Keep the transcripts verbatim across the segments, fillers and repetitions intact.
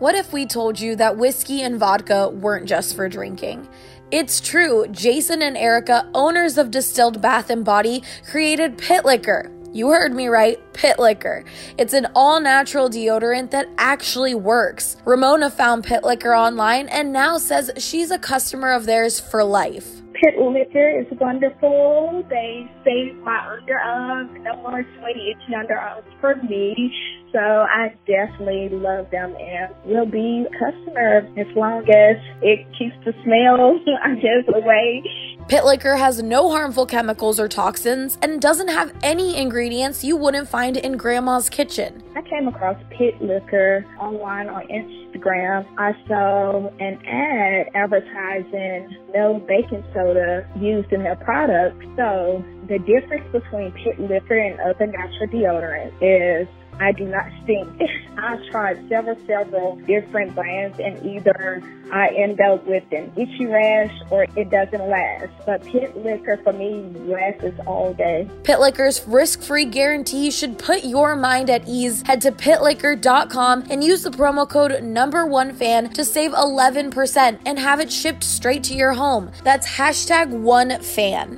What if we told you that whiskey and vodka weren't just for drinking? It's true. Jason and Erica, owners of Distilled Bath and Body, created Pit Liquor. You heard me right, Pit Liquor. It's an all-natural deodorant that actually works. Ramona found Pit Liquor online and now says she's a customer of theirs for life. Pit Liquor is wonderful. They save my underarms. No more sweaty, itchy underarms for me. So I definitely love them and will be a customer as long as it keeps the smell, I guess, away. Pit Liquor has no harmful chemicals or toxins and doesn't have any ingredients you wouldn't find in Grandma's kitchen. I came across Pit Liquor online on Instagram. I saw an ad advertising no baking soda used in their product. So the difference between Pit Liquor and other natural deodorants is I do not stink. I've tried several, several different brands, and either I end up with an itchy rash or it doesn't last. But Pit Liquor, for me, lasts all day. Pit Liquor's risk-free guarantee should put your mind at ease. Head to pit liquor dot com and use the promo code number one fan to save eleven percent and have it shipped straight to your home. That's hashtag one fan.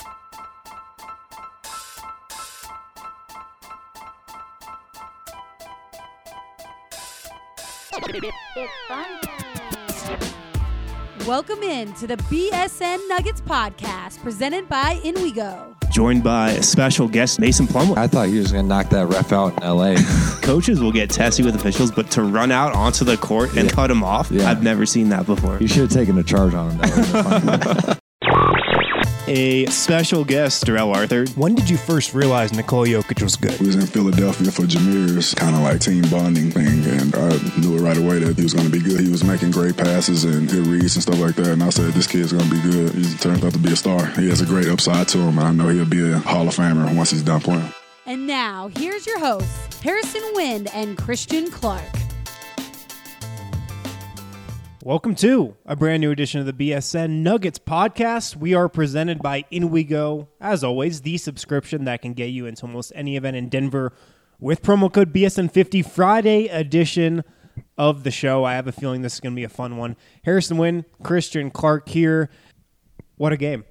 It's fun time. Welcome in to the B S N Nuggets podcast presented by In We Go. Joined by a special guest, Mason Plumlee. I thought he was going to knock that ref out in L A. Coaches will get testy with officials, but to run out onto the court and yeah. cut him off, yeah. I've never seen that before. You should have taken a charge on him. That A special guest, Darrell Arthur. When did you first realize Nikola Jokic was good? We was in Philadelphia for Jameer's kind of like team bonding thing, and I knew it right away that he was going to be good. He was making great passes and good reads and stuff like that, and I said, this kid's going to be good. He turns out to be a star. He has a great upside to him, and I know he'll be a Hall of Famer once he's done playing. And now, here's your hosts, Harrison Wind and Christian Clark. Welcome to a brand new edition of the B S N Nuggets podcast. We are presented by In We Go. As always, the subscription that can get you into almost any event in Denver with promo code B S N fifty. Friday edition of the show. I have a feeling this is going to be a fun one. Harrison Wind, Christian Clark here. What a game.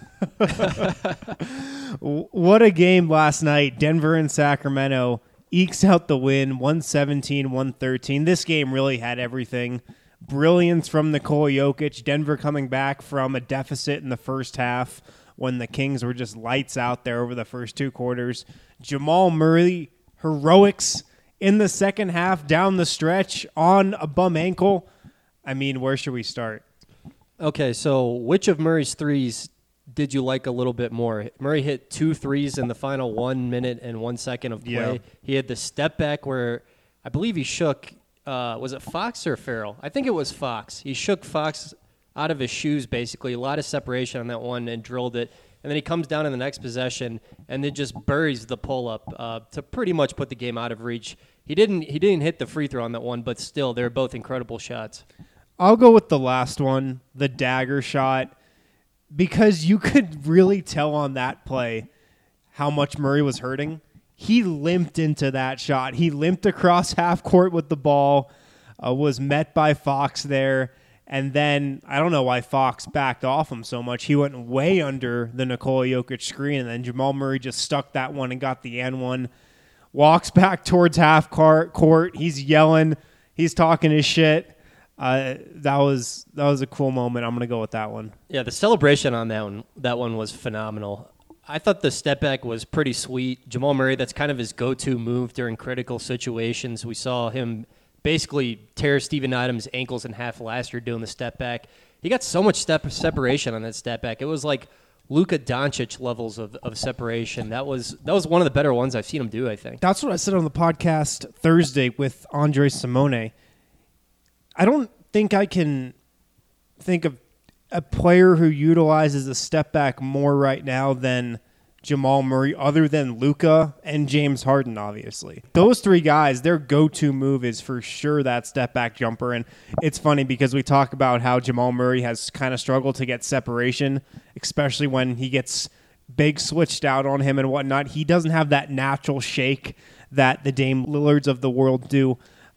What a game last night. Denver and Sacramento ekes out the win, one seventeen, one thirteen. This game really had everything. Brilliance from Nikola Jokic. Denver coming back from a deficit in the first half when the Kings were just lights out there over the first two quarters. Jamal Murray, heroics in the second half down the stretch on a bum ankle. I mean, where should we start? Okay, so which of Murray's threes did you like a little bit more? Murray hit two threes in the final one minute and one second of play. Yeah. He had the step back where I believe he shook Uh, was it Fox or Farrell? I think it was Fox. He shook Fox out of his shoes, basically. A lot of separation on that one and drilled it. And then he comes down in the next possession and then just buries the pull-up uh, to pretty much put the game out of reach. He didn't he didn't hit the free throw on that one, but still, they're both incredible shots. I'll go with the last one, the dagger shot, because you could really tell on that play how much Murray was hurting. He limped into that shot. He limped across half court with the ball, uh, was met by Fox there, and then I don't know why Fox backed off him so much. He went way under the Nikola Jokic screen, and then Jamal Murray just stuck that one and got the and one. Walks back towards half court. He's yelling. He's talking his shit. Uh, that was that was a cool moment. I'm gonna go with that one. Yeah, the celebration on that one that one was phenomenal. I thought the step back was pretty sweet. Jamal Murray, that's kind of his go-to move during critical situations. We saw him basically tear Steven Adams' ankles in half last year doing the step back. He got so much step separation on that step back. It was like Luka Doncic levels of, of separation. That was that was one of the better ones I've seen him do, I think. That's what I said on the podcast Thursday with Andre Simone. I don't think I can think of a player who utilizes a step back more right now than Jamal Murray, other than Luka and James Harden, obviously. Those three guys, their go-to move is for sure that step back jumper. And it's funny because we talk about how Jamal Murray has kind of struggled to get separation, especially when he gets big switched out on him and whatnot. He doesn't have that natural shake that the Dame Lillards of the world do.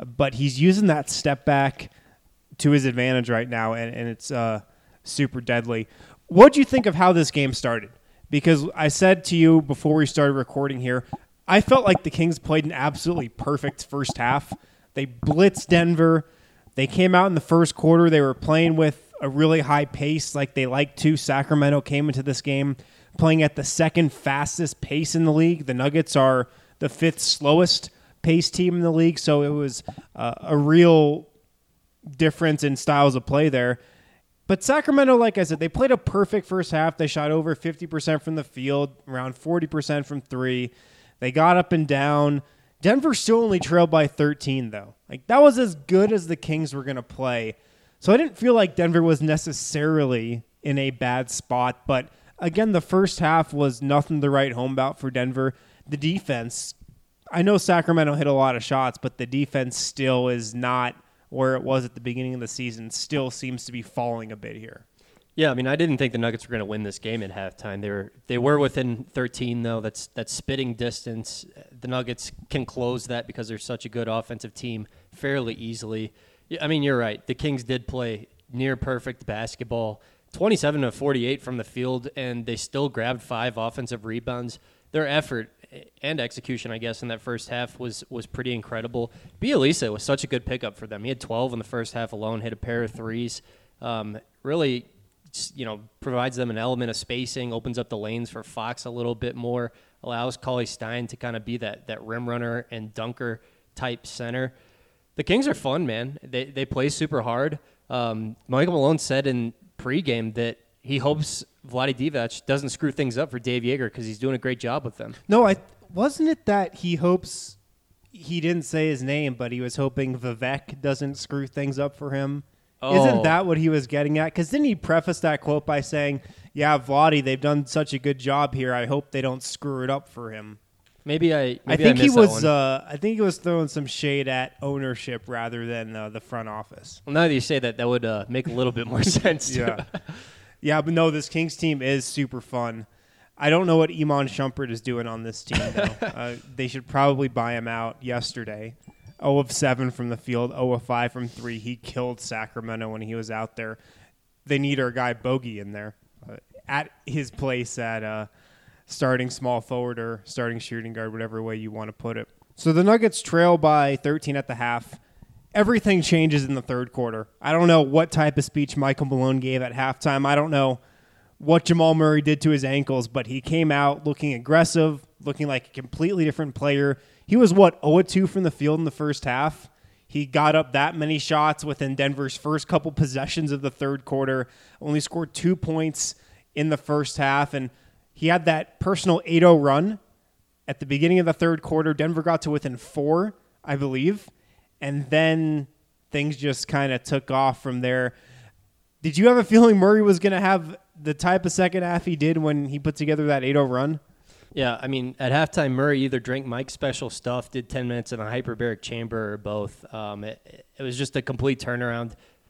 but he's using that step back to his advantage right now, and, and it's uh, super deadly. What do you think of how this game started? Because I said to you before we started recording here, I felt like the Kings played an absolutely perfect first half. They blitzed Denver. They came out in the first quarter. They were playing with a really high pace like they like to. Sacramento came into this game playing at the second fastest pace in the league. The Nuggets are the fifth slowest pace team in the league, so it was uh, a real difference in styles of play there. But Sacramento, like I said, they played a perfect first half. They shot over fifty percent from the field, around forty percent from three. They got up and down. Denver still only trailed by thirteen, though. Like, that was as good as the Kings were going to play. So I didn't feel like Denver was necessarily in a bad spot. But, again, the first half was nothing to write home about for Denver. The defense, I know Sacramento hit a lot of shots, but the defense still is not where it was at the beginning of the season. Still seems to be falling a bit here. Yeah, I mean, I didn't think the Nuggets were going to win this game at halftime. They were they were within thirteen, though. That's that's spitting distance. The Nuggets can close that because they're such a good offensive team fairly easily. I mean, you're right. The Kings did play near perfect basketball, twenty-seven to forty-eight from the field, and they still grabbed five offensive rebounds. Their effort and execution, I guess, in that first half was was pretty incredible. Bielisa was such a good pickup for them. He had twelve in the first half alone, hit a pair of threes. Um, really, you know, provides them an element of spacing, opens up the lanes for Fox a little bit more, allows Cauley Stein to kind of be that that rim runner and dunker type center. The Kings are fun, man. They they play super hard. Um, Michael Malone said in pregame that he hopes Vlade Divac doesn't screw things up for Dave Yeager because he's doing a great job with them. No, I wasn't it that he hopes he didn't say his name, but he was hoping Vivek doesn't screw things up for him. Oh. Isn't that what he was getting at? Because then he prefaced that quote by saying, yeah, Vlade, they've done such a good job here. I hope they don't screw it up for him. Maybe I. Maybe I think I he missed was. That one. Uh, I think he was throwing some shade at ownership rather than uh, the front office. Well, now that you say that, that would uh, make a little bit more sense. Yeah, yeah, but no, this Kings team is super fun. I don't know what Iman Shumpert is doing on this team, though. uh, they should probably buy him out yesterday. zero of seven from the field, zero of five from three. He killed Sacramento when he was out there. They need our guy Bogey in there uh, at his place at uh, starting small forward or starting shooting guard, whatever way you want to put it. So the Nuggets trail by thirteen at the half. Everything changes in the third quarter. I don't know what type of speech Michael Malone gave at halftime. I don't know what Jamal Murray did to his ankles, but he came out looking aggressive, looking like a completely different player. He was, what, zero of two from the field in the first half. He got up that many shots within Denver's first couple possessions of the third quarter, only scored two points in the first half, and he had that personal eight oh run at the beginning of the third quarter. Denver got to within four, I believe, and then things just kind of took off from there. Did you have a feeling Murray was going to have the type of second half he did when he put together that eight oh run? Yeah, I mean, at halftime, Murray either drank Mike's special stuff, did ten minutes in a hyperbaric chamber, or both. Um, it, it was just a complete turnaround.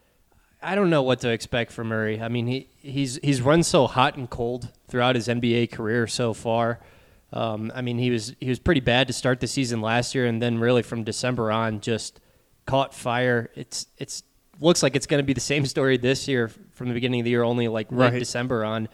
I don't know what to expect from Murray. I mean, he he's he's run so hot and cold throughout his N B A career so far. Um, I mean, he was he was pretty bad to start the season last year, and then really from December on, just caught fire. It's it's looks like it's going to be the same story this year from the beginning of the year, only like right. late December on.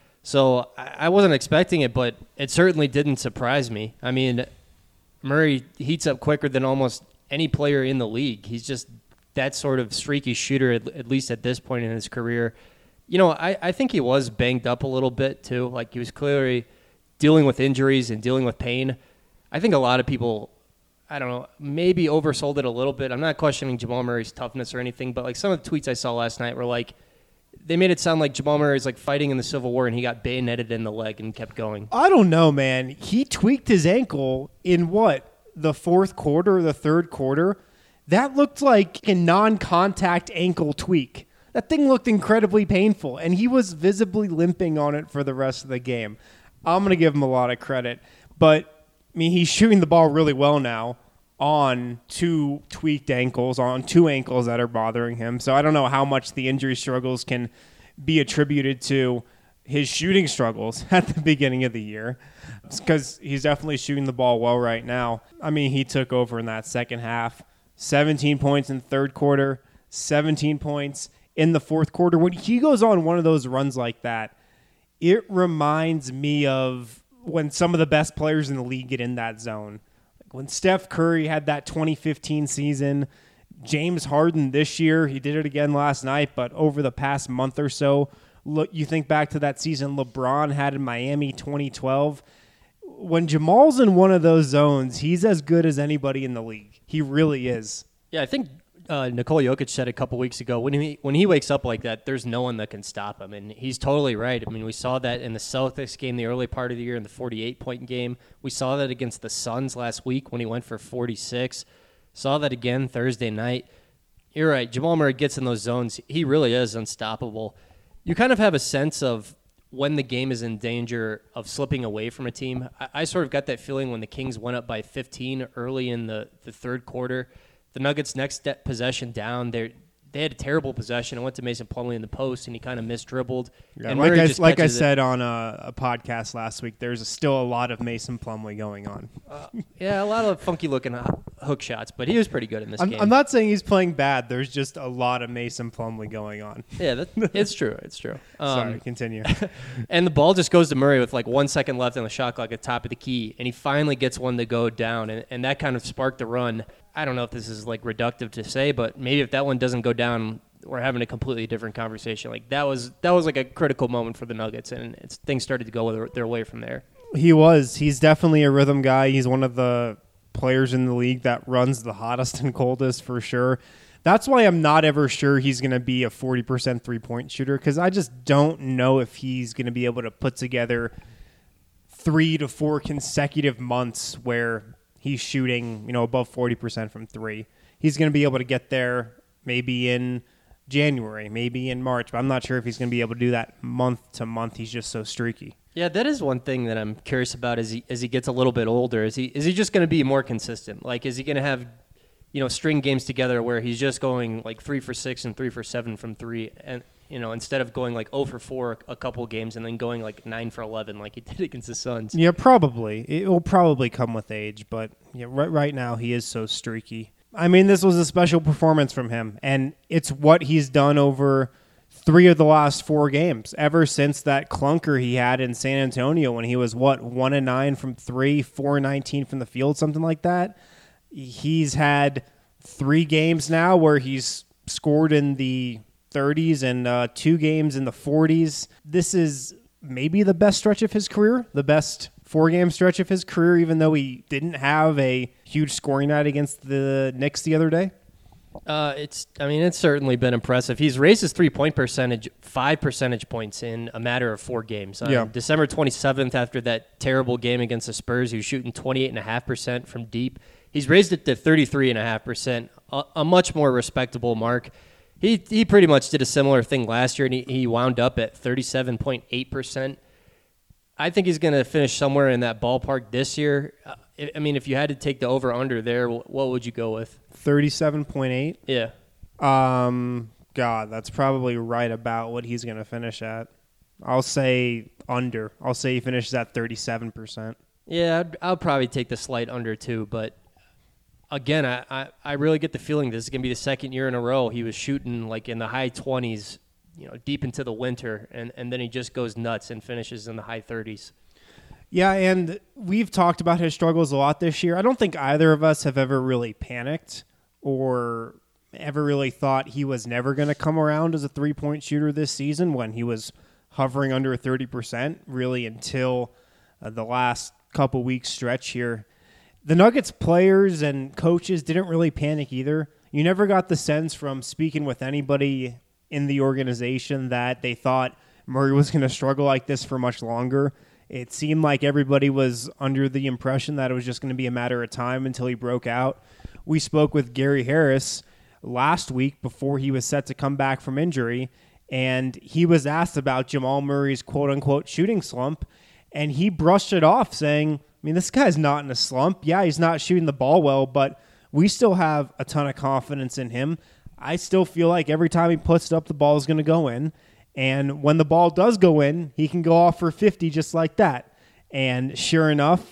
So I wasn't expecting it, but it certainly didn't surprise me. I mean, Murray heats up quicker than almost any player in the league. He's just that sort of streaky shooter, at, at least at this point in his career. You know, I, I think he was banged up a little bit, too. Like, he was clearly dealing with injuries and dealing with pain. I think a lot of people, I don't know, maybe oversold it a little bit. I'm not questioning Jamal Murray's toughness or anything, but, like, some of the tweets I saw last night were like, they made it sound like Jamal Murray was like fighting in the Civil War and he got bayoneted in the leg and kept going. I don't know, man. He tweaked his ankle in what? The fourth quarter, the third quarter? That looked like a non-contact ankle tweak. That thing looked incredibly painful, and he was visibly limping on it for the rest of the game. I'm going to give him a lot of credit. But, I mean, he's shooting the ball really well now on two tweaked ankles, on two ankles that are bothering him. So I don't know how much the injury struggles can be attributed to his shooting struggles at the beginning of the year, because he's definitely shooting the ball well right now. I mean, he took over in that second half. seventeen points in the third quarter, seventeen points in the fourth quarter. When he goes on one of those runs like that, it reminds me of when some of the best players in the league get in that zone. Like when Steph Curry had that twenty fifteen season, James Harden this year, he did it again last night, but over the past month or so, look, you think back to that season LeBron had in Miami twenty twelve. When Jamal's in one of those zones, he's as good as anybody in the league. He really is. Yeah, I think uh, Nikola Jokic said a couple weeks ago, when he when he wakes up like that, there's no one that can stop him. And he's totally right. I mean, we saw that in the Celtics game the early part of the year in the forty-eight point game. We saw that against the Suns last week when he went for forty-six. Saw that again Thursday night. You're right. Jamal Murray gets in those zones. He really is unstoppable. You kind of have a sense of when the game is in danger of slipping away from a team. I, I sort of got that feeling when the Kings went up by fifteen early in the, the third quarter. The Nuggets' next possession down, they they had a terrible possession. It went to Mason Plumlee in the post, and he kind of misdribbled. Yeah, and like Murray I, just like I catches said it. on a, a podcast last week, there's still a lot of Mason Plumlee going on. Uh, yeah, a lot of funky-looking hook shots, but he was pretty good in this I'm, game. I'm not saying he's playing bad. There's just a lot of Mason Plumlee going on. Yeah, that, it's true. It's true. Um, Sorry, continue. And the ball just goes to Murray with like one second left on the shot clock at the top of the key, and he finally gets one to go down, and, and that kind of sparked the run. I don't know if this is like reductive to say, but maybe if that one doesn't go down, we're having a completely different conversation. Like that was that was like a critical moment for the Nuggets, and it's, things started to go their, their way from there. He was. He's definitely a rhythm guy. He's one of the players in the league that runs the hottest and coldest for sure. That's why I'm not ever sure he's going to be a forty percent three-point shooter, because I just don't know if he's going to be able to put together three to four consecutive months where he's shooting, you know, above forty percent from three. He's going to be able to get there maybe in January, maybe in March, but I'm not sure if he's going to be able to do that month to month. He's just so streaky. Yeah, that is one thing that I'm curious about as he as he gets a little bit older. Is he is he just going to be more consistent? Like, is he going to have, you know, string games together where he's just going like three for six and three for seven from three, and you know, instead of going like zero for four a couple games and then going like nine for eleven like he did against the Suns? Yeah, probably. It will probably come with age, but yeah, right right now he is so streaky. I mean, this was a special performance from him, and it's what he's done over three of the last four games, ever since that clunker he had in San Antonio when he was, what, one and nine from three, four and nineteen from the field, something like that. He's had three games now where he's scored in the thirties and uh, two games in the forties. This is maybe the best stretch of his career, the best four-game stretch of his career, even though he didn't have a huge scoring night against the Knicks the other day. Uh, it's. I mean, it's certainly been impressive. He's raised his three-point percentage five percentage points in a matter of four games. On yeah. December twenty-seventh, after that terrible game against the Spurs, he was shooting twenty-eight point five percent from deep. He's raised it to thirty-three point five percent, a, a much more respectable mark. He he pretty much did a similar thing last year, and he, he wound up at thirty-seven point eight percent. I think he's going to finish somewhere in that ballpark this year. Uh, I mean, if you had to take the over-under there, what would you go with? thirty-seven point eight? Yeah. Um, God, that's probably right about what he's going to finish at. I'll say under. I'll say he finishes at thirty-seven percent. Yeah, I'd, I'll probably take the slight under too, but again, I, I, I really get the feeling this is going to be the second year in a row he was shooting like in the high twenties, you know, deep into the winter, and, and then he just goes nuts and finishes in the high thirties. Yeah, and we've talked about his struggles a lot this year. I don't think either of us have ever really panicked or ever really thought he was never going to come around as a three-point shooter this season when he was hovering under thirty percent, really until uh, the last couple weeks stretch here. The Nuggets players and coaches didn't really panic either. You never got the sense from speaking with anybody in the organization that they thought Murray was going to struggle like this for much longer. It seemed like everybody was under the impression that it was just going to be a matter of time until he broke out. We spoke with Gary Harris last week before he was set to come back from injury, and he was asked about Jamal Murray's quote-unquote shooting slump, and he brushed it off saying, I mean, this guy's not in a slump. Yeah, he's not shooting the ball well, but we still have a ton of confidence in him. I still feel like every time he puts it up, the ball is going to go in. And when the ball does go in, he can go off for fifty just like that. And sure enough,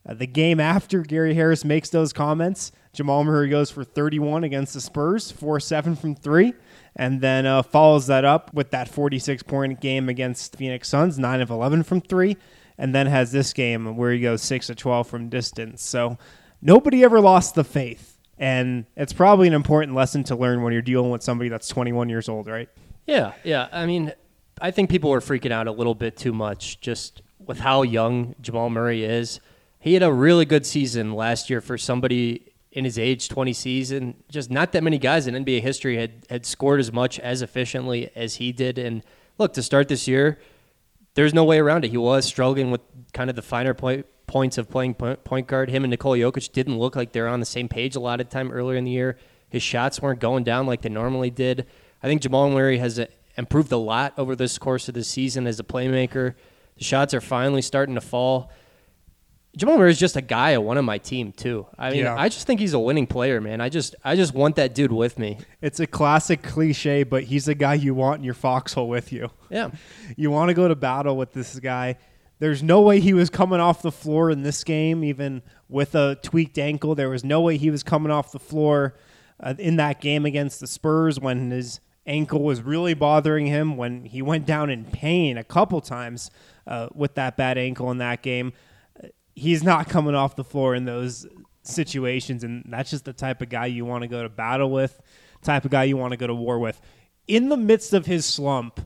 Uh, the game after Gary Harris makes those comments, Jamal Murray goes for thirty-one against the Spurs, four seven from three, and then uh, follows that up with that forty-six point game against Phoenix Suns, nine of eleven from three, and then has this game where he goes six of twelve from distance. So nobody ever lost the faith. And it's probably an important lesson to learn when you're dealing with somebody that's twenty-one years old, right? Yeah, yeah. I mean, I think people were freaking out a little bit too much just with how young Jamal Murray is. He had a really good season last year for somebody in his age twenty season. Just not that many guys in N B A history had, had scored as much as efficiently as he did. And look, to start this year, there's no way around it. He was struggling with kind of the finer point. points of playing point guard. Him and Nikola Jokic didn't look like they were on the same page a lot of time earlier in the year. His shots weren't going down like they normally did. I think Jamal Murray has improved a lot over this course of the season as a playmaker. The shots are finally starting to fall. Jamal Murray is just a guy I want on my team too. I mean, Yeah. I just think he's a winning player, man. I just, I just want that dude with me. It's a classic cliche, but he's the guy you want in your foxhole with you. Yeah. You want to go to battle with this guy. There's no way he was coming off the floor in this game, even with a tweaked ankle. There was no way he was coming off the floor uh, in that game against the Spurs when his ankle was really bothering him, when he went down in pain a couple times uh, with that bad ankle in that game. Uh, he's not coming off the floor in those situations, and that's just the type of guy you want to go to battle with, type of guy you want to go to war with. In the midst of his slump,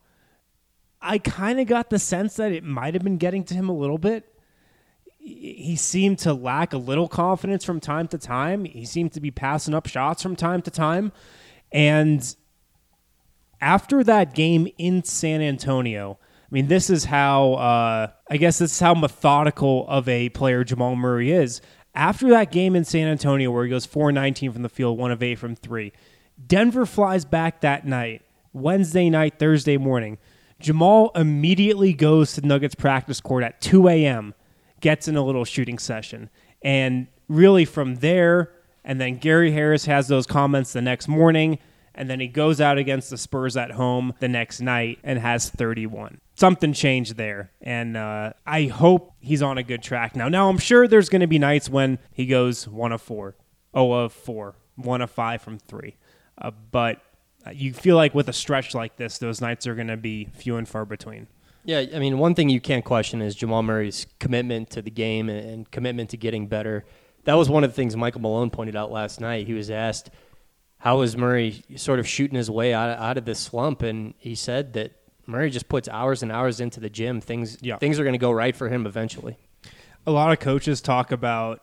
I kind of got the sense that it might have been getting to him a little bit. He seemed to lack a little confidence from time to time. He seemed to be passing up shots from time to time. And after that game in San Antonio, I mean, this is how, uh, I guess this is how methodical of a player Jamal Murray is. After that game in San Antonio where he goes four nineteen from the field, one of eight from three, Denver flies back that night, Wednesday night, Thursday morning. Jamal immediately goes to the Nuggets practice court at two a.m., gets in a little shooting session. And really from there, and then Gary Harris has those comments the next morning, and then he goes out against the Spurs at home the next night and has thirty-one. Something changed there, and uh, I hope he's on a good track now. Now, I'm sure there's going to be nights when he goes one of four, oh of four, one of five from three. Uh, but you feel like with a stretch like this, those nights are going to be few and far between. Yeah, I mean, one thing you can't question is Jamal Murray's commitment to the game and commitment to getting better. That was one of the things Michael Malone pointed out last night. He was asked, how is Murray sort of shooting his way out of, out of this slump? And he said that Murray just puts hours and hours into the gym. Things, yeah. things are going to go right for him eventually. A lot of coaches talk about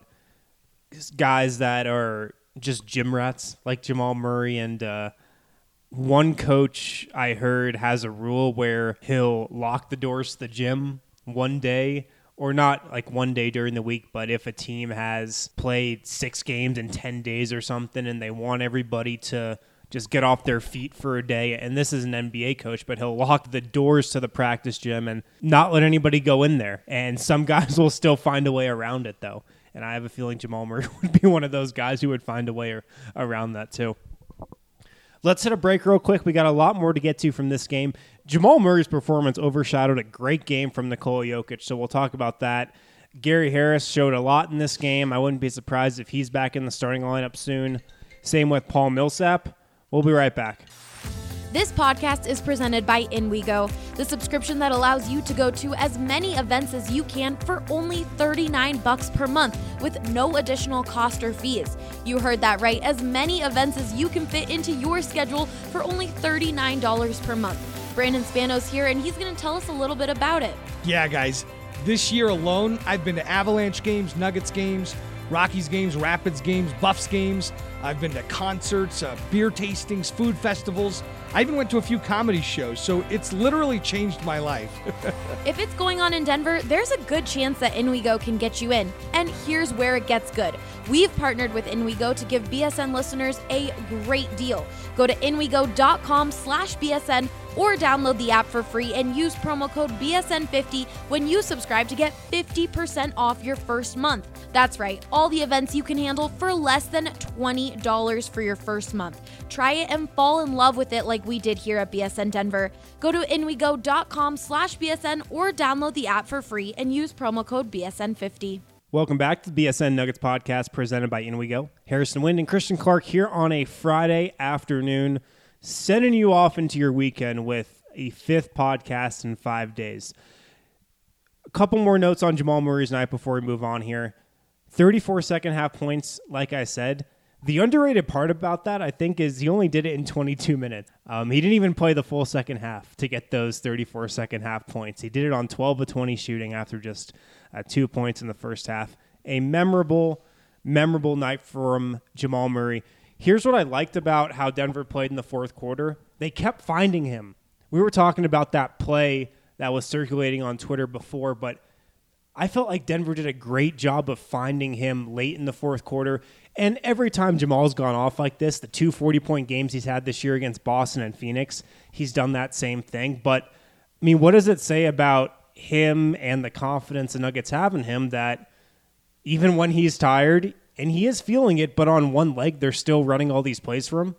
guys that are just gym rats like Jamal Murray, and uh, one coach I heard has a rule where he'll lock the doors to the gym one day, or not like one day during the week, but if a team has played six games in ten days or something and they want everybody to just get off their feet for a day, and this is an N B A coach, but he'll lock the doors to the practice gym and not let anybody go in there. And some guys will still find a way around it, though. And I have a feeling Jamal Murray would be one of those guys who would find a way around that, too. Let's hit a break real quick. We got a lot more to get to from this game. Jamal Murray's performance overshadowed a great game from Nikola Jokic, so we'll talk about that. Gary Harris showed a lot in this game. I wouldn't be surprised if he's back in the starting lineup soon. Same with Paul Millsap. We'll be right back. This podcast is presented by InWeGo, the subscription that allows you to go to as many events as you can for only thirty-nine bucks per month with no additional cost or fees. You heard that right, as many events as you can fit into your schedule for only thirty-nine dollars per month. Brandon Spanos here, and he's going to tell us a little bit about it. Yeah, guys, this year alone, I've been to Avalanche games, Nuggets games, Rockies games, Rapids games, Buffs games. I've been to concerts, uh, beer tastings, food festivals. I even went to a few comedy shows, so it's literally changed my life. If it's going on in Denver, there's a good chance that InWeGo can get you in. And here's where it gets good. We've partnered with InWeGo to give B S N listeners a great deal. Go to InWeGo.com slash BSN or download the app for free and use promo code B S N fifty when you subscribe to get fifty percent off your first month. That's right, all the events you can handle for less than twenty dollars for your first month. Try it and fall in love with it like we did here at B S N Denver. Go to InWeGo.com slash BSN or download the app for free and use promo code B S N fifty. Welcome back to the B S N Nuggets podcast presented by In We Go. Harrison Wind and Christian Clark here on a Friday afternoon, sending you off into your weekend with a fifth podcast in five days. A couple more notes on Jamal Murray's night before we move on here. thirty-four second half points, like I said. The underrated part about that, I think, is he only did it in twenty-two minutes. Um, he didn't even play the full second half to get those thirty-four second half points. He did it on twelve of twenty shooting after just uh, two points in the first half. A memorable, memorable night from Jamal Murray. Here's what I liked about how Denver played in the fourth quarter. They kept finding him. We were talking about that play that was circulating on Twitter before, but I felt like Denver did a great job of finding him late in the fourth quarter. And every time Jamal's gone off like this, the two forty-point games he's had this year against Boston and Phoenix, he's done that same thing. But, I mean, what does it say about him and the confidence the Nuggets have in him that even when he's tired, and he is feeling it, but on one leg, they're still running all these plays for him?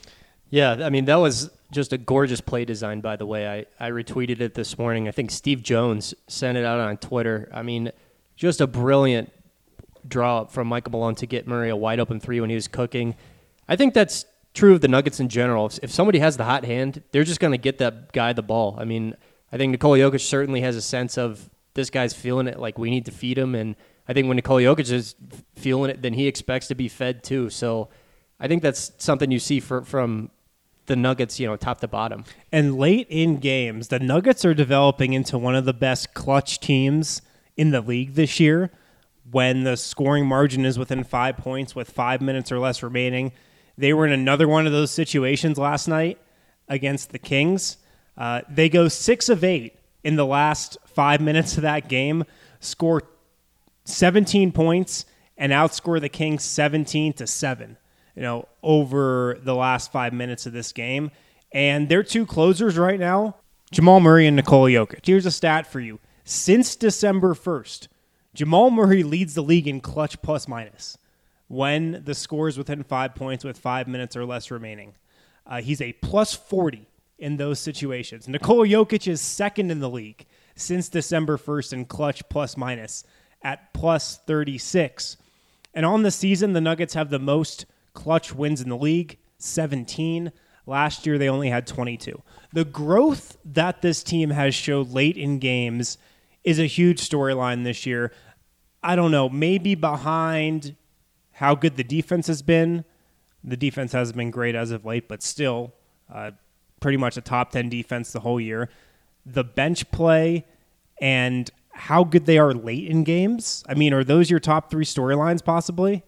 Yeah, I mean, that was just a gorgeous play design, by the way. I, I retweeted it this morning. I think Steve Jones sent it out on Twitter. I mean, just a brilliant draw up from Michael Malone to get Murray a wide-open three when he was cooking. I think that's true of the Nuggets in general. If, if somebody has the hot hand, they're just going to get that guy the ball. I mean, I think Nikola Jokic certainly has a sense of this guy's feeling it, like we need to feed him, and I think when Nikola Jokic is feeling it, then he expects to be fed too. So I think that's something you see for, from the Nuggets, you know, top to bottom. And late in games, the Nuggets are developing into one of the best clutch teams in the league this year. When the scoring margin is within five points with five minutes or less remaining. They were in another one of those situations last night against the Kings. Uh, they go six of eight in the last five minutes of that game, score seventeen points, and outscore the Kings seventeen to seven, you know, over the last five minutes of this game. And their two closers right now, Jamal Murray and Nikola Jokic. Here's a stat for you. Since December first, Jamal Murray leads the league in clutch plus minus when the score is within five points with five minutes or less remaining. Uh, he's a plus forty in those situations. Nikola Jokic is second in the league since December first in clutch plus minus at plus thirty-six. And on the season, the Nuggets have the most clutch wins in the league, seventeen. Last year, they only had twenty-two. The growth that this team has showed late in games is a huge storyline this year. I don't know, maybe behind how good the defense has been. The defense hasn't been great as of late, but still uh, pretty much a top ten defense the whole year. The bench play and how good they are late in games. I mean, are those your top three storylines possibly?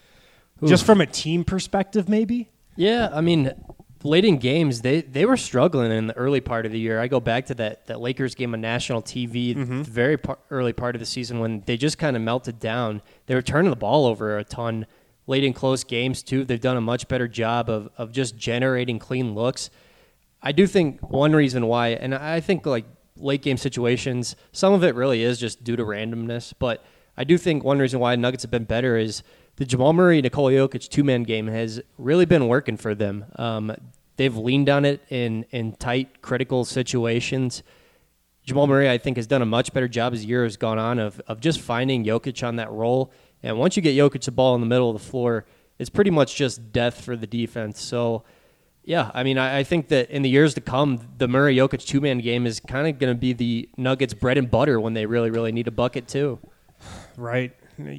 Oof. Just from a team perspective, maybe? Yeah, I mean, late in games, they, they were struggling in the early part of the year. I go back to that, that Lakers game on national T V, mm-hmm. the very par- early part of the season when they just kind of melted down. They were turning the ball over a ton. Late in close games, too, they've done a much better job of, of just generating clean looks. I do think one reason why, and I think like late game situations, some of it really is just due to randomness, but I do think one reason why Nuggets have been better is the Jamal Murray, Nikola Jokic two-man game has really been working for them. Um, they've leaned on it in, in tight, critical situations. Jamal Murray, I think, has done a much better job as the year has gone on of, of just finding Jokic on that role. And once you get Jokic the ball in the middle of the floor, it's pretty much just death for the defense. So, yeah, I mean, I, I think that in the years to come, the Murray-Jokic two-man game is kind of going to be the Nuggets' bread and butter when they really, really need a bucket, too. Right.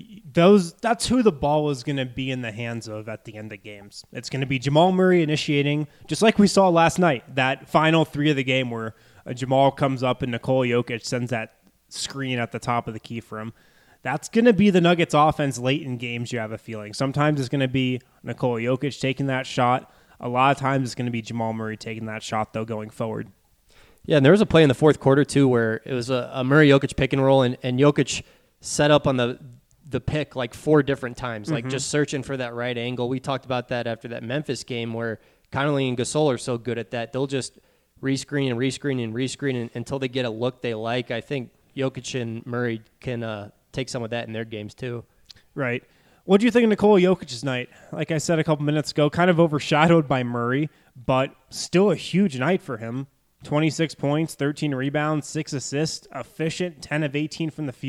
Those that's who the ball is going to be in the hands of at the end of games. It's going to be Jamal Murray initiating, just like we saw last night, that final three of the game where uh, Jamal comes up and Nikola Jokic sends that screen at the top of the key for him. That's going to be the Nuggets offense late in games, you have a feeling. Sometimes it's going to be Nikola Jokic taking that shot. A lot of times it's going to be Jamal Murray taking that shot, though, going forward. Yeah, and there was a play in the fourth quarter, too, where it was a, a Murray-Jokic pick and roll, and, and Jokic set up on the the pick like four different times, mm-hmm. like just searching for that right angle. We talked about that after that Memphis game where Connolly and Gasol are so good at that. They'll just rescreen and rescreen and rescreen and, until they get a look they like. I think Jokic and Murray can uh, take some of that in their games too. Right. What do you think of Nikola Jokic's night? Like I said a couple minutes ago, kind of overshadowed by Murray, but still a huge night for him. twenty-six points, thirteen rebounds, six assists, efficient, ten of eighteen from the field.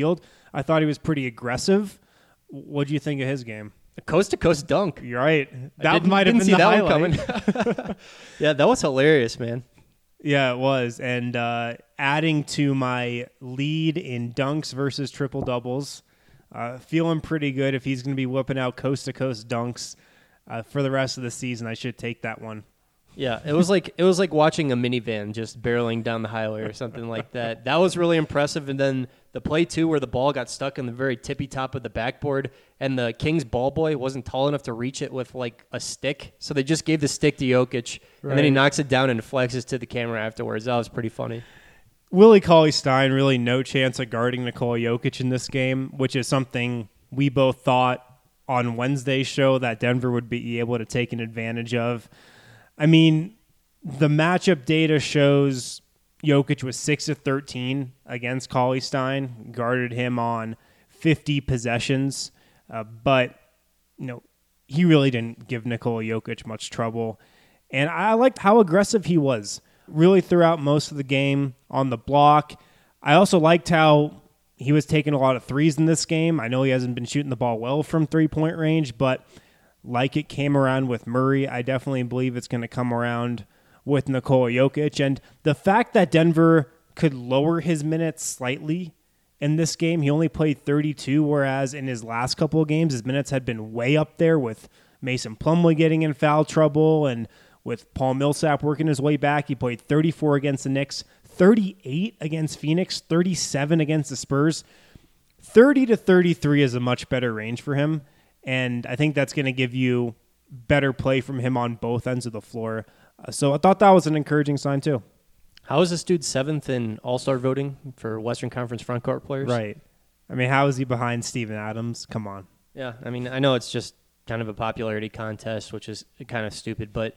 I thought he was pretty aggressive. What do you think of his game? A coast-to-coast dunk. You're right. I That didn't- might have didn't been see the that highlight. one coming. Yeah, that was hilarious, man. Yeah, it was. And uh, adding to my lead in dunks versus triple doubles, uh, feeling pretty good. If he's going to be whipping out coast to coast dunks uh, for the rest of the season, I should take that one. Yeah, it was like it was like watching a minivan just barreling down the highway or something like that. That was really impressive. And then the play two where the ball got stuck in the very tippy top of the backboard, and the Kings ball boy wasn't tall enough to reach it with like a stick, so they just gave the stick to Jokic, right. And then he knocks it down and flexes to the camera afterwards. That was pretty funny. Willie Cauley-Stein, really no chance of guarding Nikola Jokic in this game, which is something we both thought on Wednesday's show that Denver would be able to take an advantage of. I mean, the matchup data shows Jokic was six of thirteen against Cauley-Stein, guarded him on fifty possessions, uh, but you know he really didn't give Nikola Jokic much trouble. And I liked how aggressive he was, really throughout most of the game on the block. I also liked how he was taking a lot of threes in this game. I know he hasn't been shooting the ball well from three-point range, but like it came around with Murray, I definitely believe it's going to come around with Nikola Jokic. And the fact that Denver could lower his minutes slightly in this game, he only played thirty-two, whereas in his last couple of games, his minutes had been way up there with Mason Plumlee getting in foul trouble and with Paul Millsap working his way back. He played thirty-four against the Knicks, thirty-eight against Phoenix, thirty-seven against the Spurs. thirty to thirty-three is a much better range for him. And I think that's going to give you better play from him on both ends of the floor. Uh, so I thought that was an encouraging sign too. How is this dude seventh in All-Star voting for Western Conference front court players? Right. I mean, how is he behind Steven Adams? Come on. Yeah, I mean, I know it's just kind of a popularity contest, which is kind of stupid. But,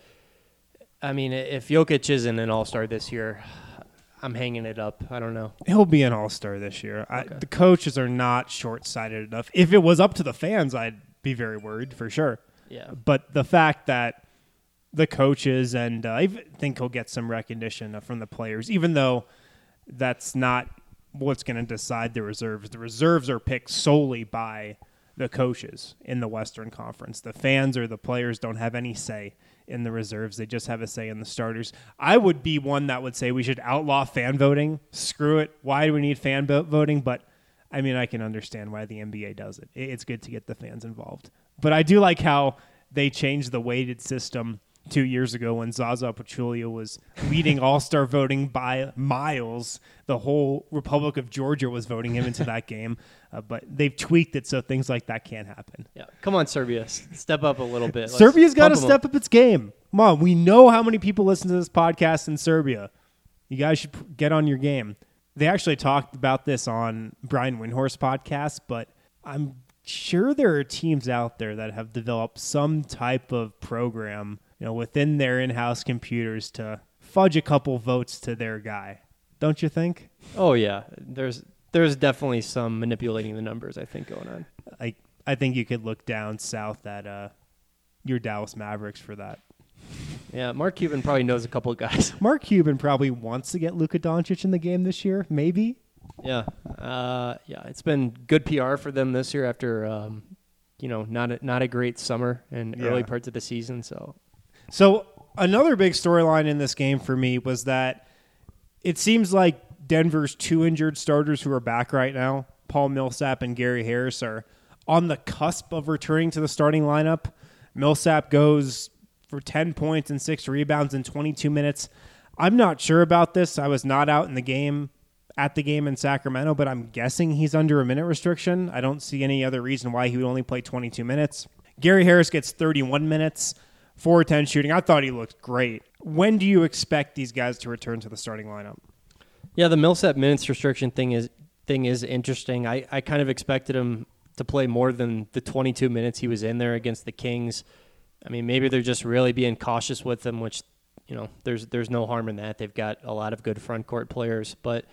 I mean, if Jokic isn't an All-Star this year, I'm hanging it up. I don't know. He'll be an all-star this year. Okay. I, the coaches are not short-sighted enough. If it was up to the fans, I'd be very worried for sure. Yeah. But the fact that the coaches, and uh, I think he'll get some recognition from the players, even though that's not what's going to decide the reserves. The reserves are picked solely by the coaches in the Western Conference. The fans or the players don't have any say in the reserves. They just have a say in the starters. I would be one that would say we should outlaw fan voting. Screw it. Why do we need fan voting? But, I mean, I can understand why the N B A does it. It's good to get the fans involved. But I do like how they changed the weighted system two years ago when Zaza Pachulia was leading all-star voting by miles. The whole Republic of Georgia was voting him into that game. Uh, but they've tweaked it so things like that can't happen. Yeah, come on, Serbia. S- Step up a little bit. Let's Serbia's got to pump 'em step up. up its game. Come on, we know how many people listen to this podcast in Serbia. You guys should p- get on your game. They actually talked about this on Brian Windhorst's podcast, but I'm sure there are teams out there that have developed some type of program, you know, within their in-house computers to fudge a couple votes to their guy. Don't you think? Oh, yeah. There's there's definitely some manipulating the numbers, I think, going on. I I think you could look down south at uh, your Dallas Mavericks for that. Yeah, Mark Cuban probably knows a couple of guys. Mark Cuban probably wants to get Luka Doncic in the game this year, maybe. Yeah, uh, yeah. It's been good P R for them this year after, um, you know, not a, not a great summer and Yeah. early parts of the season. So, So another big storyline in this game for me was that it seems like Denver's two injured starters who are back right now, Paul Millsap and Gary Harris, are on the cusp of returning to the starting lineup. Millsap goes for ten points and six rebounds in twenty-two minutes. I'm not sure about this. I was not out in the game at the game in Sacramento, but I'm guessing he's under a minute restriction. I don't see any other reason why he would only play twenty-two minutes. Gary Harris gets thirty-one minutes, four ten shooting. I thought he looked great. When do you expect these guys to return to the starting lineup? yeah, the Millsap minutes restriction thing is thing is interesting. I, I kind of expected him to play more than the twenty-two minutes he was in there against the Kings. I mean, maybe they're just really being cautious with him, which, you know, there's there's no harm in that. They've got a lot of good front court players. But,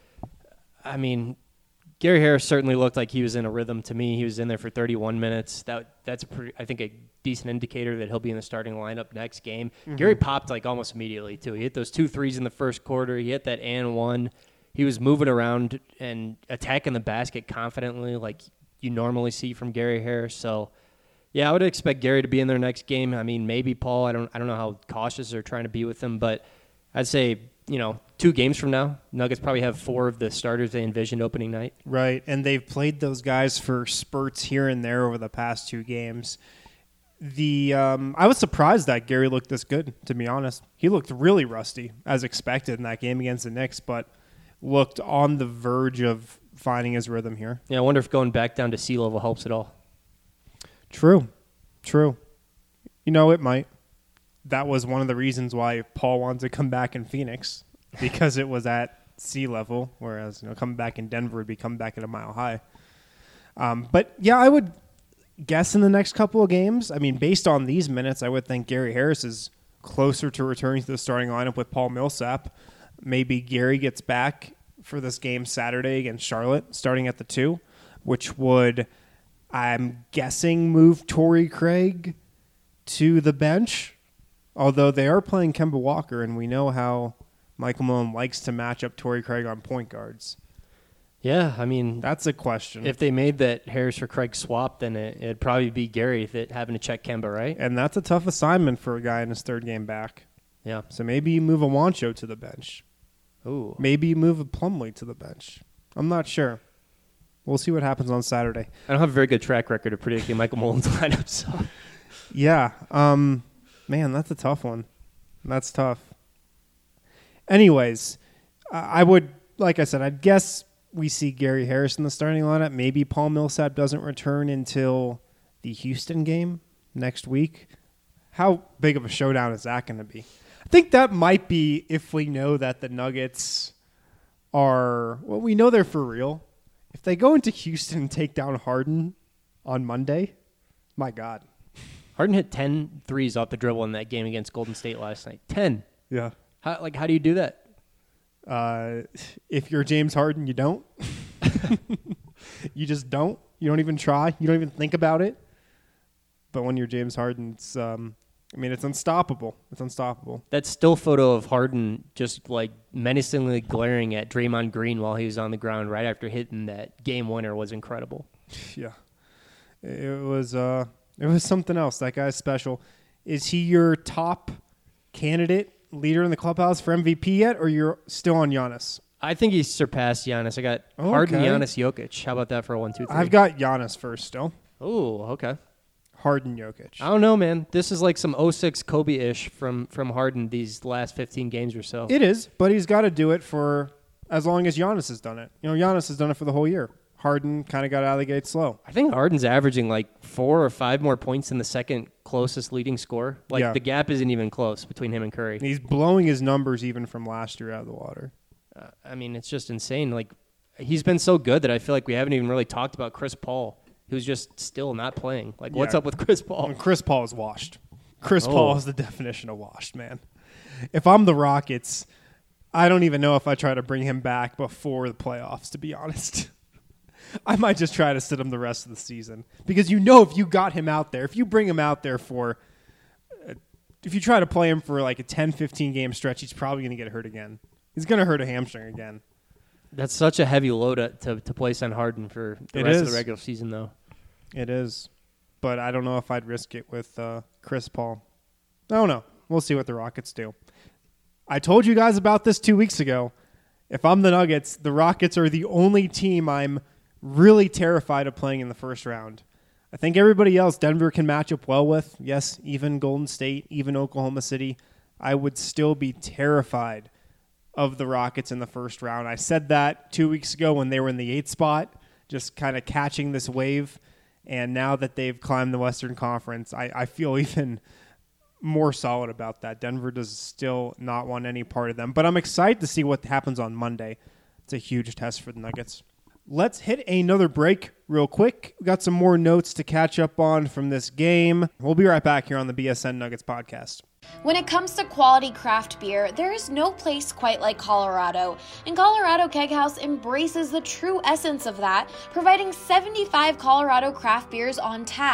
I mean, Gary Harris certainly looked like he was in a rhythm to me. He was in there for thirty-one minutes. That That's, a pretty, I think, a decent indicator that he'll be in the starting lineup next game. Mm-hmm. Gary popped, like, almost immediately, too. He hit those two threes in the first quarter. He hit that and one. he was moving around and attacking the basket confidently like you normally see from Gary Harris. So, yeah, I would expect Gary to be in their next game. I mean, maybe Paul. I don't I don't know how cautious they're trying to be with him, but I'd say, you know, two games from now, Nuggets probably have four of the starters they envisioned opening night. Right, and they've played those guys for spurts here and there over the past two games. The um, I was surprised that Gary looked this good, to be honest. He looked really rusty, as expected in that game against the Knicks, but looked on the verge of finding his rhythm here. Yeah, I wonder if going back down to sea level helps at all. True, true. You know, it might. That was one of the reasons why Paul wanted to come back in Phoenix, because it was at sea level, whereas, you know, coming back in Denver would be coming back at a mile high. Um, but, yeah, I would guess in the next couple of games, I mean, based on these minutes, I would think Gary Harris is closer to returning to the starting lineup with Paul Millsap. Maybe Gary gets back for this game Saturday against Charlotte, starting at the two, which would, I'm guessing, move Torrey Craig to the bench. Although they are playing Kemba Walker, and we know how Michael Malone likes to match up Torrey Craig on point guards. Yeah, I mean, that's a question. If they made that Harris for Craig swap, then it, it'd probably be Gary that having to check Kemba, right? And that's a tough assignment for a guy in his third game back. Yeah. So maybe you move a Wancho to the bench. Ooh. Maybe you move a Plumlee to the bench. I'm not sure. We'll see what happens on Saturday. I don't have a very good track record of predicting Michael Malone's lineup, so. Yeah. Um, man, that's a tough one. That's tough. Anyways, I would, like I said, I'd guess we see Gary Harris in the starting lineup. Maybe Paul Millsap doesn't return until the Houston game next week. How big of a showdown is that going to be? I think that might be if we know that the Nuggets are, well, we know they're for real. If they go into Houston and take down Harden on Monday, my God. Harden hit ten threes off the dribble in that game against Golden State last night. ten. Yeah. How, like, how do you do that? Uh, if you're James Harden, you don't. You just don't. You don't even try. You don't even think about it. But when you're James Harden, it's, um, I mean, it's unstoppable. It's unstoppable. That still photo of Harden just, like, menacingly glaring at Draymond Green while he was on the ground right after hitting that game winner was incredible. Yeah. It was, uh, it was something else. That guy's special. Is he your top candidate, leader in the clubhouse for M V P yet, or you're still on Giannis? I think he's surpassed Giannis. I got Okay. Harden, Giannis, Jokic. How about that for a one, two, three? I've got Giannis first still. Oh, okay. Harden, Jokic. I don't know, man. This is like some oh six Kobe-ish from, from Harden these last fifteen games or so. It is, but he's got to do it for as long as Giannis has done it. You know, Giannis has done it for the whole year. Harden kind of got out of the gate slow. I think Harden's averaging like four or five more points than the second closest leading scorer. Like, Yeah. the gap isn't even close between him and Curry. He's blowing his numbers even from last year out of the water. Uh, I mean, it's just insane. Like, he's been so good that I feel like we haven't even really talked about Chris Paul, who's just still not playing. Like, what's Yeah. up with Chris Paul? And Chris Paul is washed. Chris Oh. Paul is the definition of washed, man. If I'm the Rockets, I don't even know if I try to bring him back before the playoffs, to be honest. I might just try to sit him the rest of the season. Because you know if you got him out there, if you bring him out there for, uh, if you try to play him for like a ten, fifteen game stretch, he's probably going to get hurt again. He's going to hurt a hamstring again. That's such a heavy load to, to, to place on Harden for the It rest is. of the regular season, though. It is. But I don't know if I'd risk it with uh, Chris Paul. I don't know. We'll see what the Rockets do. I told you guys about this two weeks ago. If I'm the Nuggets, the Rockets are the only team I'm really terrified of playing in the first round. I think everybody else Denver can match up well with. Yes, even Golden State, even Oklahoma City. I would still be terrified of the Rockets in the first round. I said that two weeks ago when they were in the eighth spot, just kind of catching this wave. And now that they've climbed the Western Conference, I, I feel even more solid about that. Denver does still not want any part of them. But I'm excited to see what happens on Monday. It's a huge test for the Nuggets. Let's hit another break real quick. We got some more notes to catch up on from this game. We'll be right back here on the B S N Nuggets podcast. When it comes to quality craft beer, there is no place quite like Colorado, and Colorado Keg House embraces the true essence of that, providing seventy-five Colorado craft beers on tap.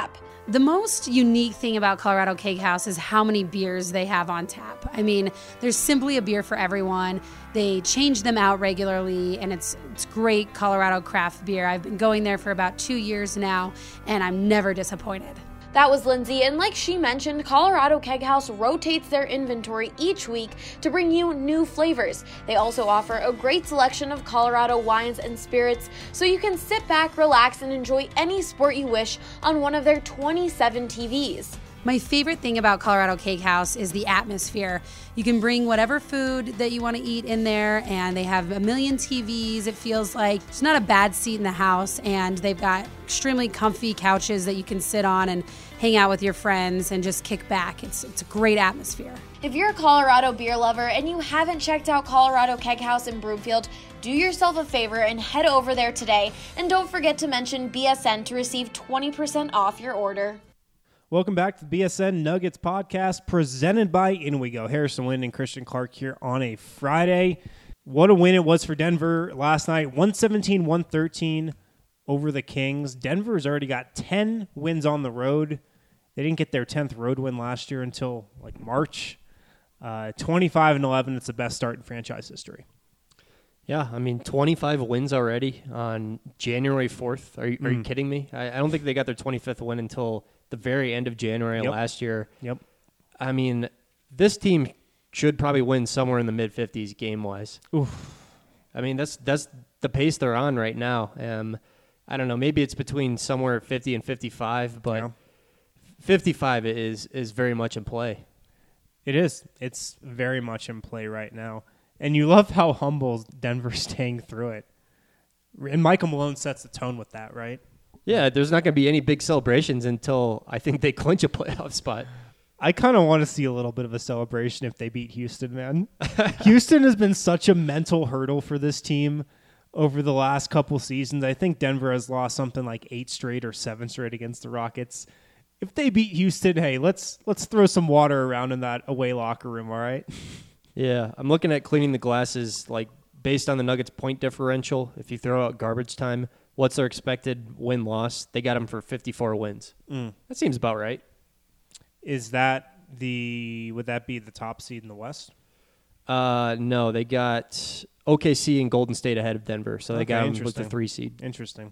The most unique thing about Colorado Keg House is how many beers they have on tap. I mean, there's simply a beer for everyone. They change them out regularly, and it's it's great Colorado craft beer. I've been going there for about two years now, and I'm never disappointed. That was Lindsay, and like she mentioned, Colorado Keg House rotates their inventory each week to bring you new flavors. They also offer a great selection of Colorado wines and spirits, so you can sit back, relax, and enjoy any sport you wish on one of their twenty-seven T Vs. My favorite thing about Colorado Keg House is the atmosphere. You can bring whatever food that you want to eat in there, and they have a million T Vs. It feels like it's not a bad seat in the house, and they've got extremely comfy couches that you can sit on and hang out with your friends and just kick back. It's it's a great atmosphere. If you're a Colorado beer lover and you haven't checked out Colorado Keg House in Broomfield, do yourself a favor and head over there today. And don't forget to mention B S N to receive twenty percent off your order. Welcome back to the B S N Nuggets podcast presented by Inwigo. Harrison Wind and Christian Clark here on a Friday. What a win it was for Denver last night. one seventeen one thirteen over the Kings. Denver's already got ten wins on the road. They didn't get their tenth road win last year until like March. Uh, twenty-five and eleven, it's the best start in franchise history. Yeah, I mean, twenty-five wins already on January fourth. Are you, are Mm. you kidding me? I, I don't think they got their twenty-fifth win until the very end of January Yep. last year. Yep. I mean, this team should probably win somewhere in the mid-fifties game-wise. Oof. I mean, that's that's the pace they're on right now. Um, I don't know. Maybe it's between somewhere at fifty and fifty-five, but Yeah. fifty-five is is very much in play. It is. It's very much in play right now. And you love how humble Denver's staying through it. And Michael Malone sets the tone with that, right? Yeah, there's not going to be any big celebrations until I think they clinch a playoff spot. I kind of want to see a little bit of a celebration if they beat Houston, man. Houston has been such a mental hurdle for this team over the last couple seasons. I think Denver has lost something like eight straight or seven straight against the Rockets. If they beat Houston, hey, let's let's throw some water around in that away locker room, all right? Yeah, I'm looking at cleaning the glasses, like based on the Nuggets' point differential. If you throw out garbage time, what's their expected win-loss? They got them for fifty-four wins. Mm. That seems about right. Is that the would that be the top seed in the West? Uh, no, they got O K C and Golden State ahead of Denver, so they Okay, got them with the interesting. three seed. Interesting.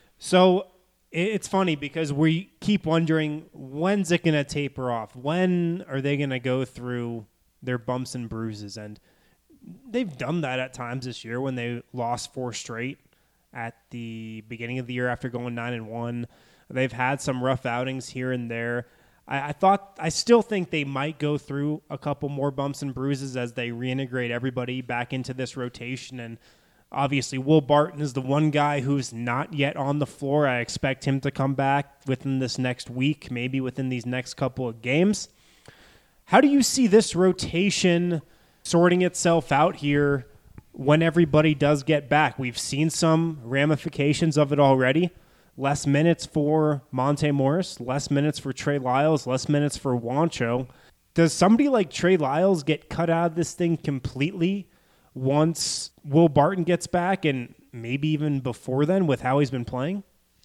So it- it's funny because we keep wondering, when's it going to taper off? When are they going to go through their bumps and bruises? And they've done that at times this year when they lost four straight at the beginning of the year after going nine and one. They've had some rough outings here and there. I, I thought, I still think they might go through a couple more bumps and bruises as they reintegrate everybody back into this rotation. And obviously, Will Barton is the one guy who's not yet on the floor. I expect him to come back within this next week, maybe within these next couple of games. How do you see this rotation sorting itself out here when everybody does get back? We've seen some ramifications of it already. Less minutes for Monte Morris, less minutes for Trey Lyles, less minutes for Juancho. Does somebody like Trey Lyles get cut out of this thing completely once Will Barton gets back, and maybe even before then with how he's been playing?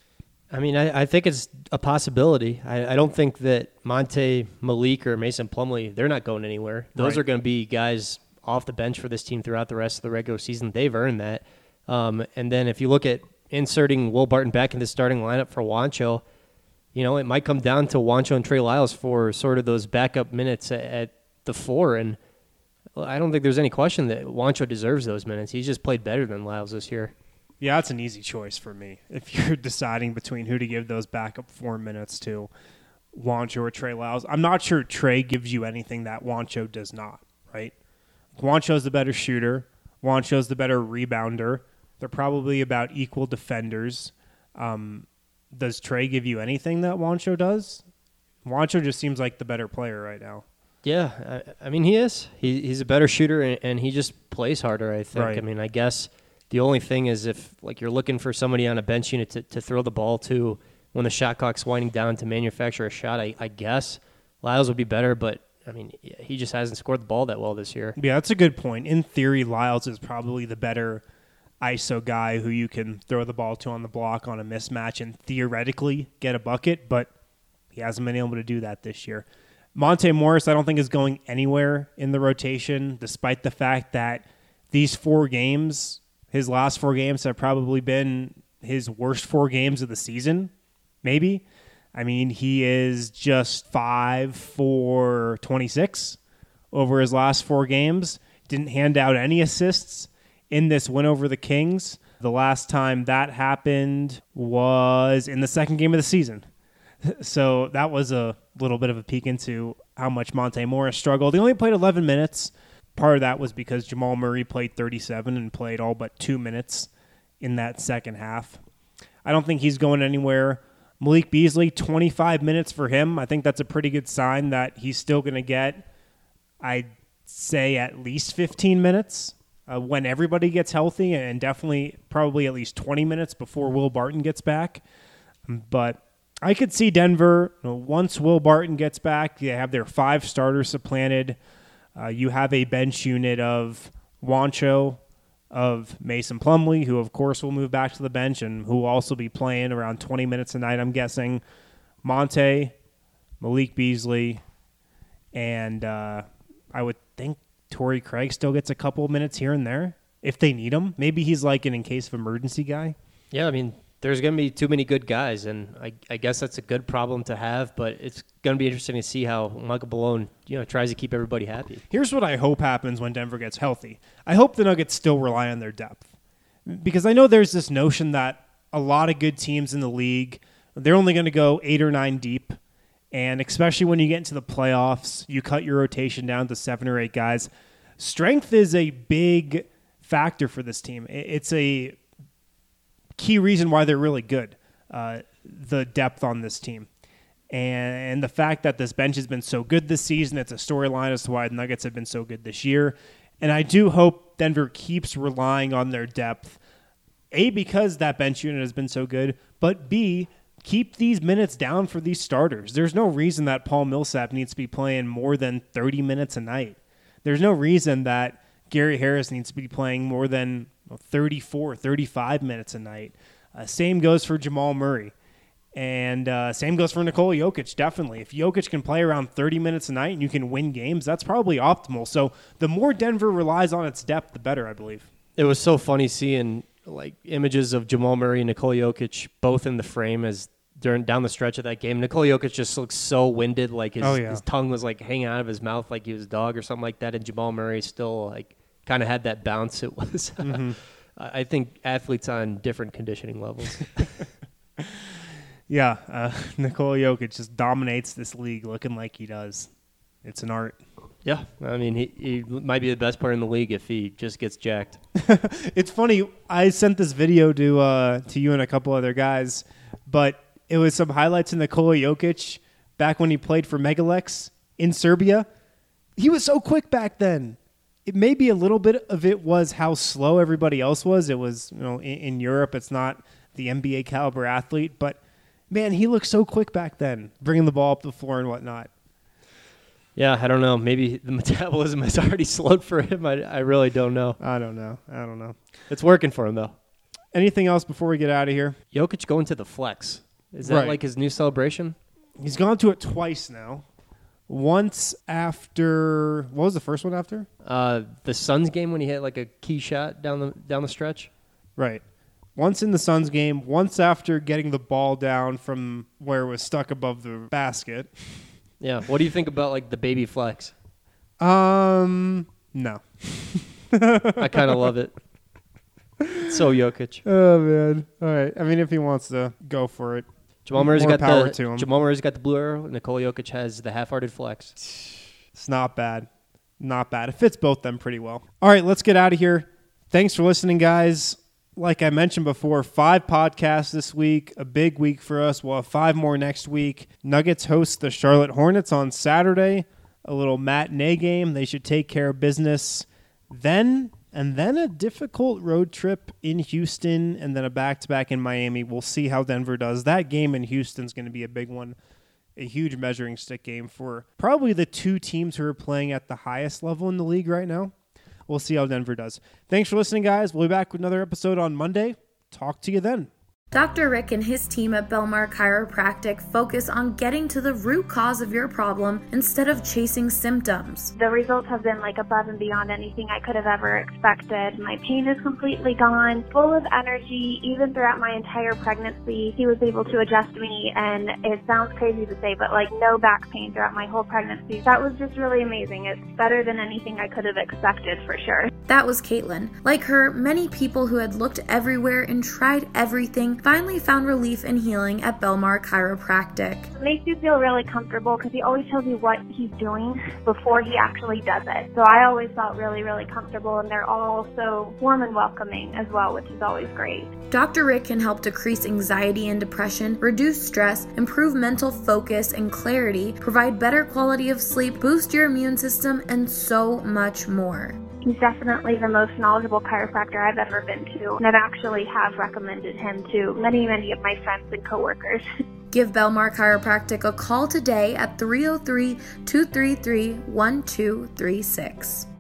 I mean, I, I think it's a possibility. I, I don't think that Monte, Malik, or Mason Plumlee, they're not going anywhere. Those Right. are going to be guys off the bench for this team throughout the rest of the regular season. They've earned that. Um, and then if you look at inserting Will Barton back in the starting lineup for Juancho, you know, it might come down to Juancho and Trey Lyles for sort of those backup minutes at, at the four. And well, I don't think there's any question that Juancho deserves those minutes. He's just played better than Lyles this year. Yeah, that's an easy choice for me. If you're deciding between who to give those backup four minutes to, Juancho or Trey Lyles, I'm not sure Trey gives you anything that Juancho does not, right? Juancho's the better shooter. Juancho's the better rebounder. They're probably about equal defenders. Um, does Trey give you anything that Juancho does? Juancho just seems like the better player right now. Yeah, I, I mean, he is. He, he's a better shooter, and, and he just plays harder, I think. Right. I mean, I guess the only thing is if like you're looking for somebody on a bench unit to, to throw the ball to when the shot clock's winding down to manufacture a shot, I, I guess Lyles would be better, but, I mean, he just hasn't scored the ball that well this year. Yeah, that's a good point. In theory, Lyles is probably the better I S O guy who you can throw the ball to on the block on a mismatch and theoretically get a bucket, but He hasn't been able to do that this year. Monte Morris, I don't think, is going anywhere in the rotation, despite the fact that these four games, his last four games, have probably been his worst four games of the season, maybe. I mean, he is just five for twenty-six over his last four games. Didn't hand out any assists in this win over the Kings. The last time that happened was in the second game of the season. So that was a little bit of a peek into how much Monte Morris struggled. He only played eleven minutes. Part of that was because Jamal Murray played thirty-seven and played all but two minutes in that second half. I don't think he's going anywhere. Malik Beasley, twenty-five minutes for him. I think that's a pretty good sign that he's still going to get, I'd say, at least fifteen minutes uh, when everybody gets healthy, and definitely probably at least twenty minutes before Will Barton gets back. But I could see Denver, you know, once Will Barton gets back, they have their five starters supplanted. Uh, you have a bench unit of Wancho, of Mason Plumlee, who of course will move back to the bench and who will also be playing around twenty minutes a night, I'm guessing. Monte, Malik Beasley, and uh, I would think Torrey Craig still gets a couple of minutes here and there if they need him. Maybe he's like an in case of emergency guy. Yeah, I mean, there's going to be too many good guys, and I, I guess that's a good problem to have, but it's going to be interesting to see how Michael Malone, you know, tries to keep everybody happy. Here's what I hope happens when Denver gets healthy. I hope the Nuggets still rely on their depth, because I know there's this notion that a lot of good teams in the league, they're only going to go eight or nine deep, and especially when you get into the playoffs, you cut your rotation down to seven or eight guys. Strength is a big factor for this team. It's a key reason why they're really good, uh, the depth on this team. And, and the fact that this bench has been so good this season, it's a storyline as to why the Nuggets have been so good this year. And I do hope Denver keeps relying on their depth, A, because that bench unit has been so good, but B, keep these minutes down for these starters. There's no reason that Paul Millsap needs to be playing more than thirty minutes a night. There's no reason that Gary Harris needs to be playing more than thirty-four, thirty-five minutes a night. Uh, same goes for Jamal Murray. And uh, same goes for Nikola Jokic, definitely. If Jokic can play around thirty minutes a night and you can win games, that's probably optimal. So the more Denver relies on its depth, the better, I believe. It was so funny seeing like images of Jamal Murray and Nikola Jokic both in the frame as during down the stretch of that game. Nikola Jokic just looks so winded, like his, oh, yeah. his tongue was like hanging out of his mouth like he was a dog or something like that, and Jamal Murray still like kind of had that bounce. It was, mm-hmm. I think, athletes on different conditioning levels. yeah, uh, Nikola Jokic just dominates this league looking like he does. It's an art. Yeah, I mean, he, he might be the best player in the league if he just gets jacked. It's funny. I sent this video to uh, to you and a couple other guys, but it was some highlights of Nikola Jokic back when he played for Megalex in Serbia. He was so quick back then. It maybe a little bit of it was how slow everybody else was. It was, you know, in, in Europe, it's not the N B A caliber athlete, but man, he looked so quick back then, bringing the ball up the floor and whatnot. Yeah, I don't know. Maybe the metabolism has already slowed for him. I, I really don't know. I don't know. I don't know. It's working for him, though. Anything else before we get out of here? Jokic going to the flex. Is that right. like his new celebration? He's gone to it twice now. Once after, what was the first one after? Uh, the Suns game when he hit like a key shot down the down the stretch. Right. Once in the Suns game, once after getting the ball down from where it was stuck above the basket. Yeah. What do you think about like the baby flex? Um, no. I kind of love it. So Jokic. Oh man. All right. I mean, if he wants to go for it, Jamal Murray's more got power the to him. Jamal Murray's got the blue arrow. Nikola Jokic has the half-hearted flex. It's not bad. Not bad. It fits both them pretty well. All right, let's get out of here. Thanks for listening, guys. Like I mentioned before, five podcasts this week, a big week for us. We'll have five more next week. Nuggets host the Charlotte Hornets on Saturday, a little matinee game. They should take care of business then, and then a difficult road trip in Houston, and then a back-to-back in Miami. We'll see how Denver does. That game in Houston is going to be a big one, a huge measuring stick game for probably the two teams who are playing at the highest level in the league right now. We'll see how Denver does. Thanks for listening, guys. We'll be back with another episode on Monday. Talk to you then. Doctor Rick and his team at Belmar Chiropractic focus on getting to the root cause of your problem instead of chasing symptoms. The results have been like above and beyond anything I could have ever expected. My pain is completely gone, full of energy. Even throughout my entire pregnancy, he was able to adjust me, and it sounds crazy to say, but like no back pain throughout my whole pregnancy. That was just really amazing. It's better than anything I could have expected for sure. That was Caitlin. Like her, many people who had looked everywhere and tried everything finally found relief and healing at Belmar Chiropractic. It makes you feel really comfortable because he always tells you what he's doing before he actually does it. So I always felt really, really comfortable, and they're all so warm and welcoming as well, which is always great. Doctor Rick can help decrease anxiety and depression, reduce stress, improve mental focus and clarity, provide better quality of sleep, boost your immune system, and so much more. He's definitely the most knowledgeable chiropractor I've ever been to, and I've actually have recommended him to many, many of my friends and coworkers. Give Belmar Chiropractic a call today at three oh three, two three three, one two three six.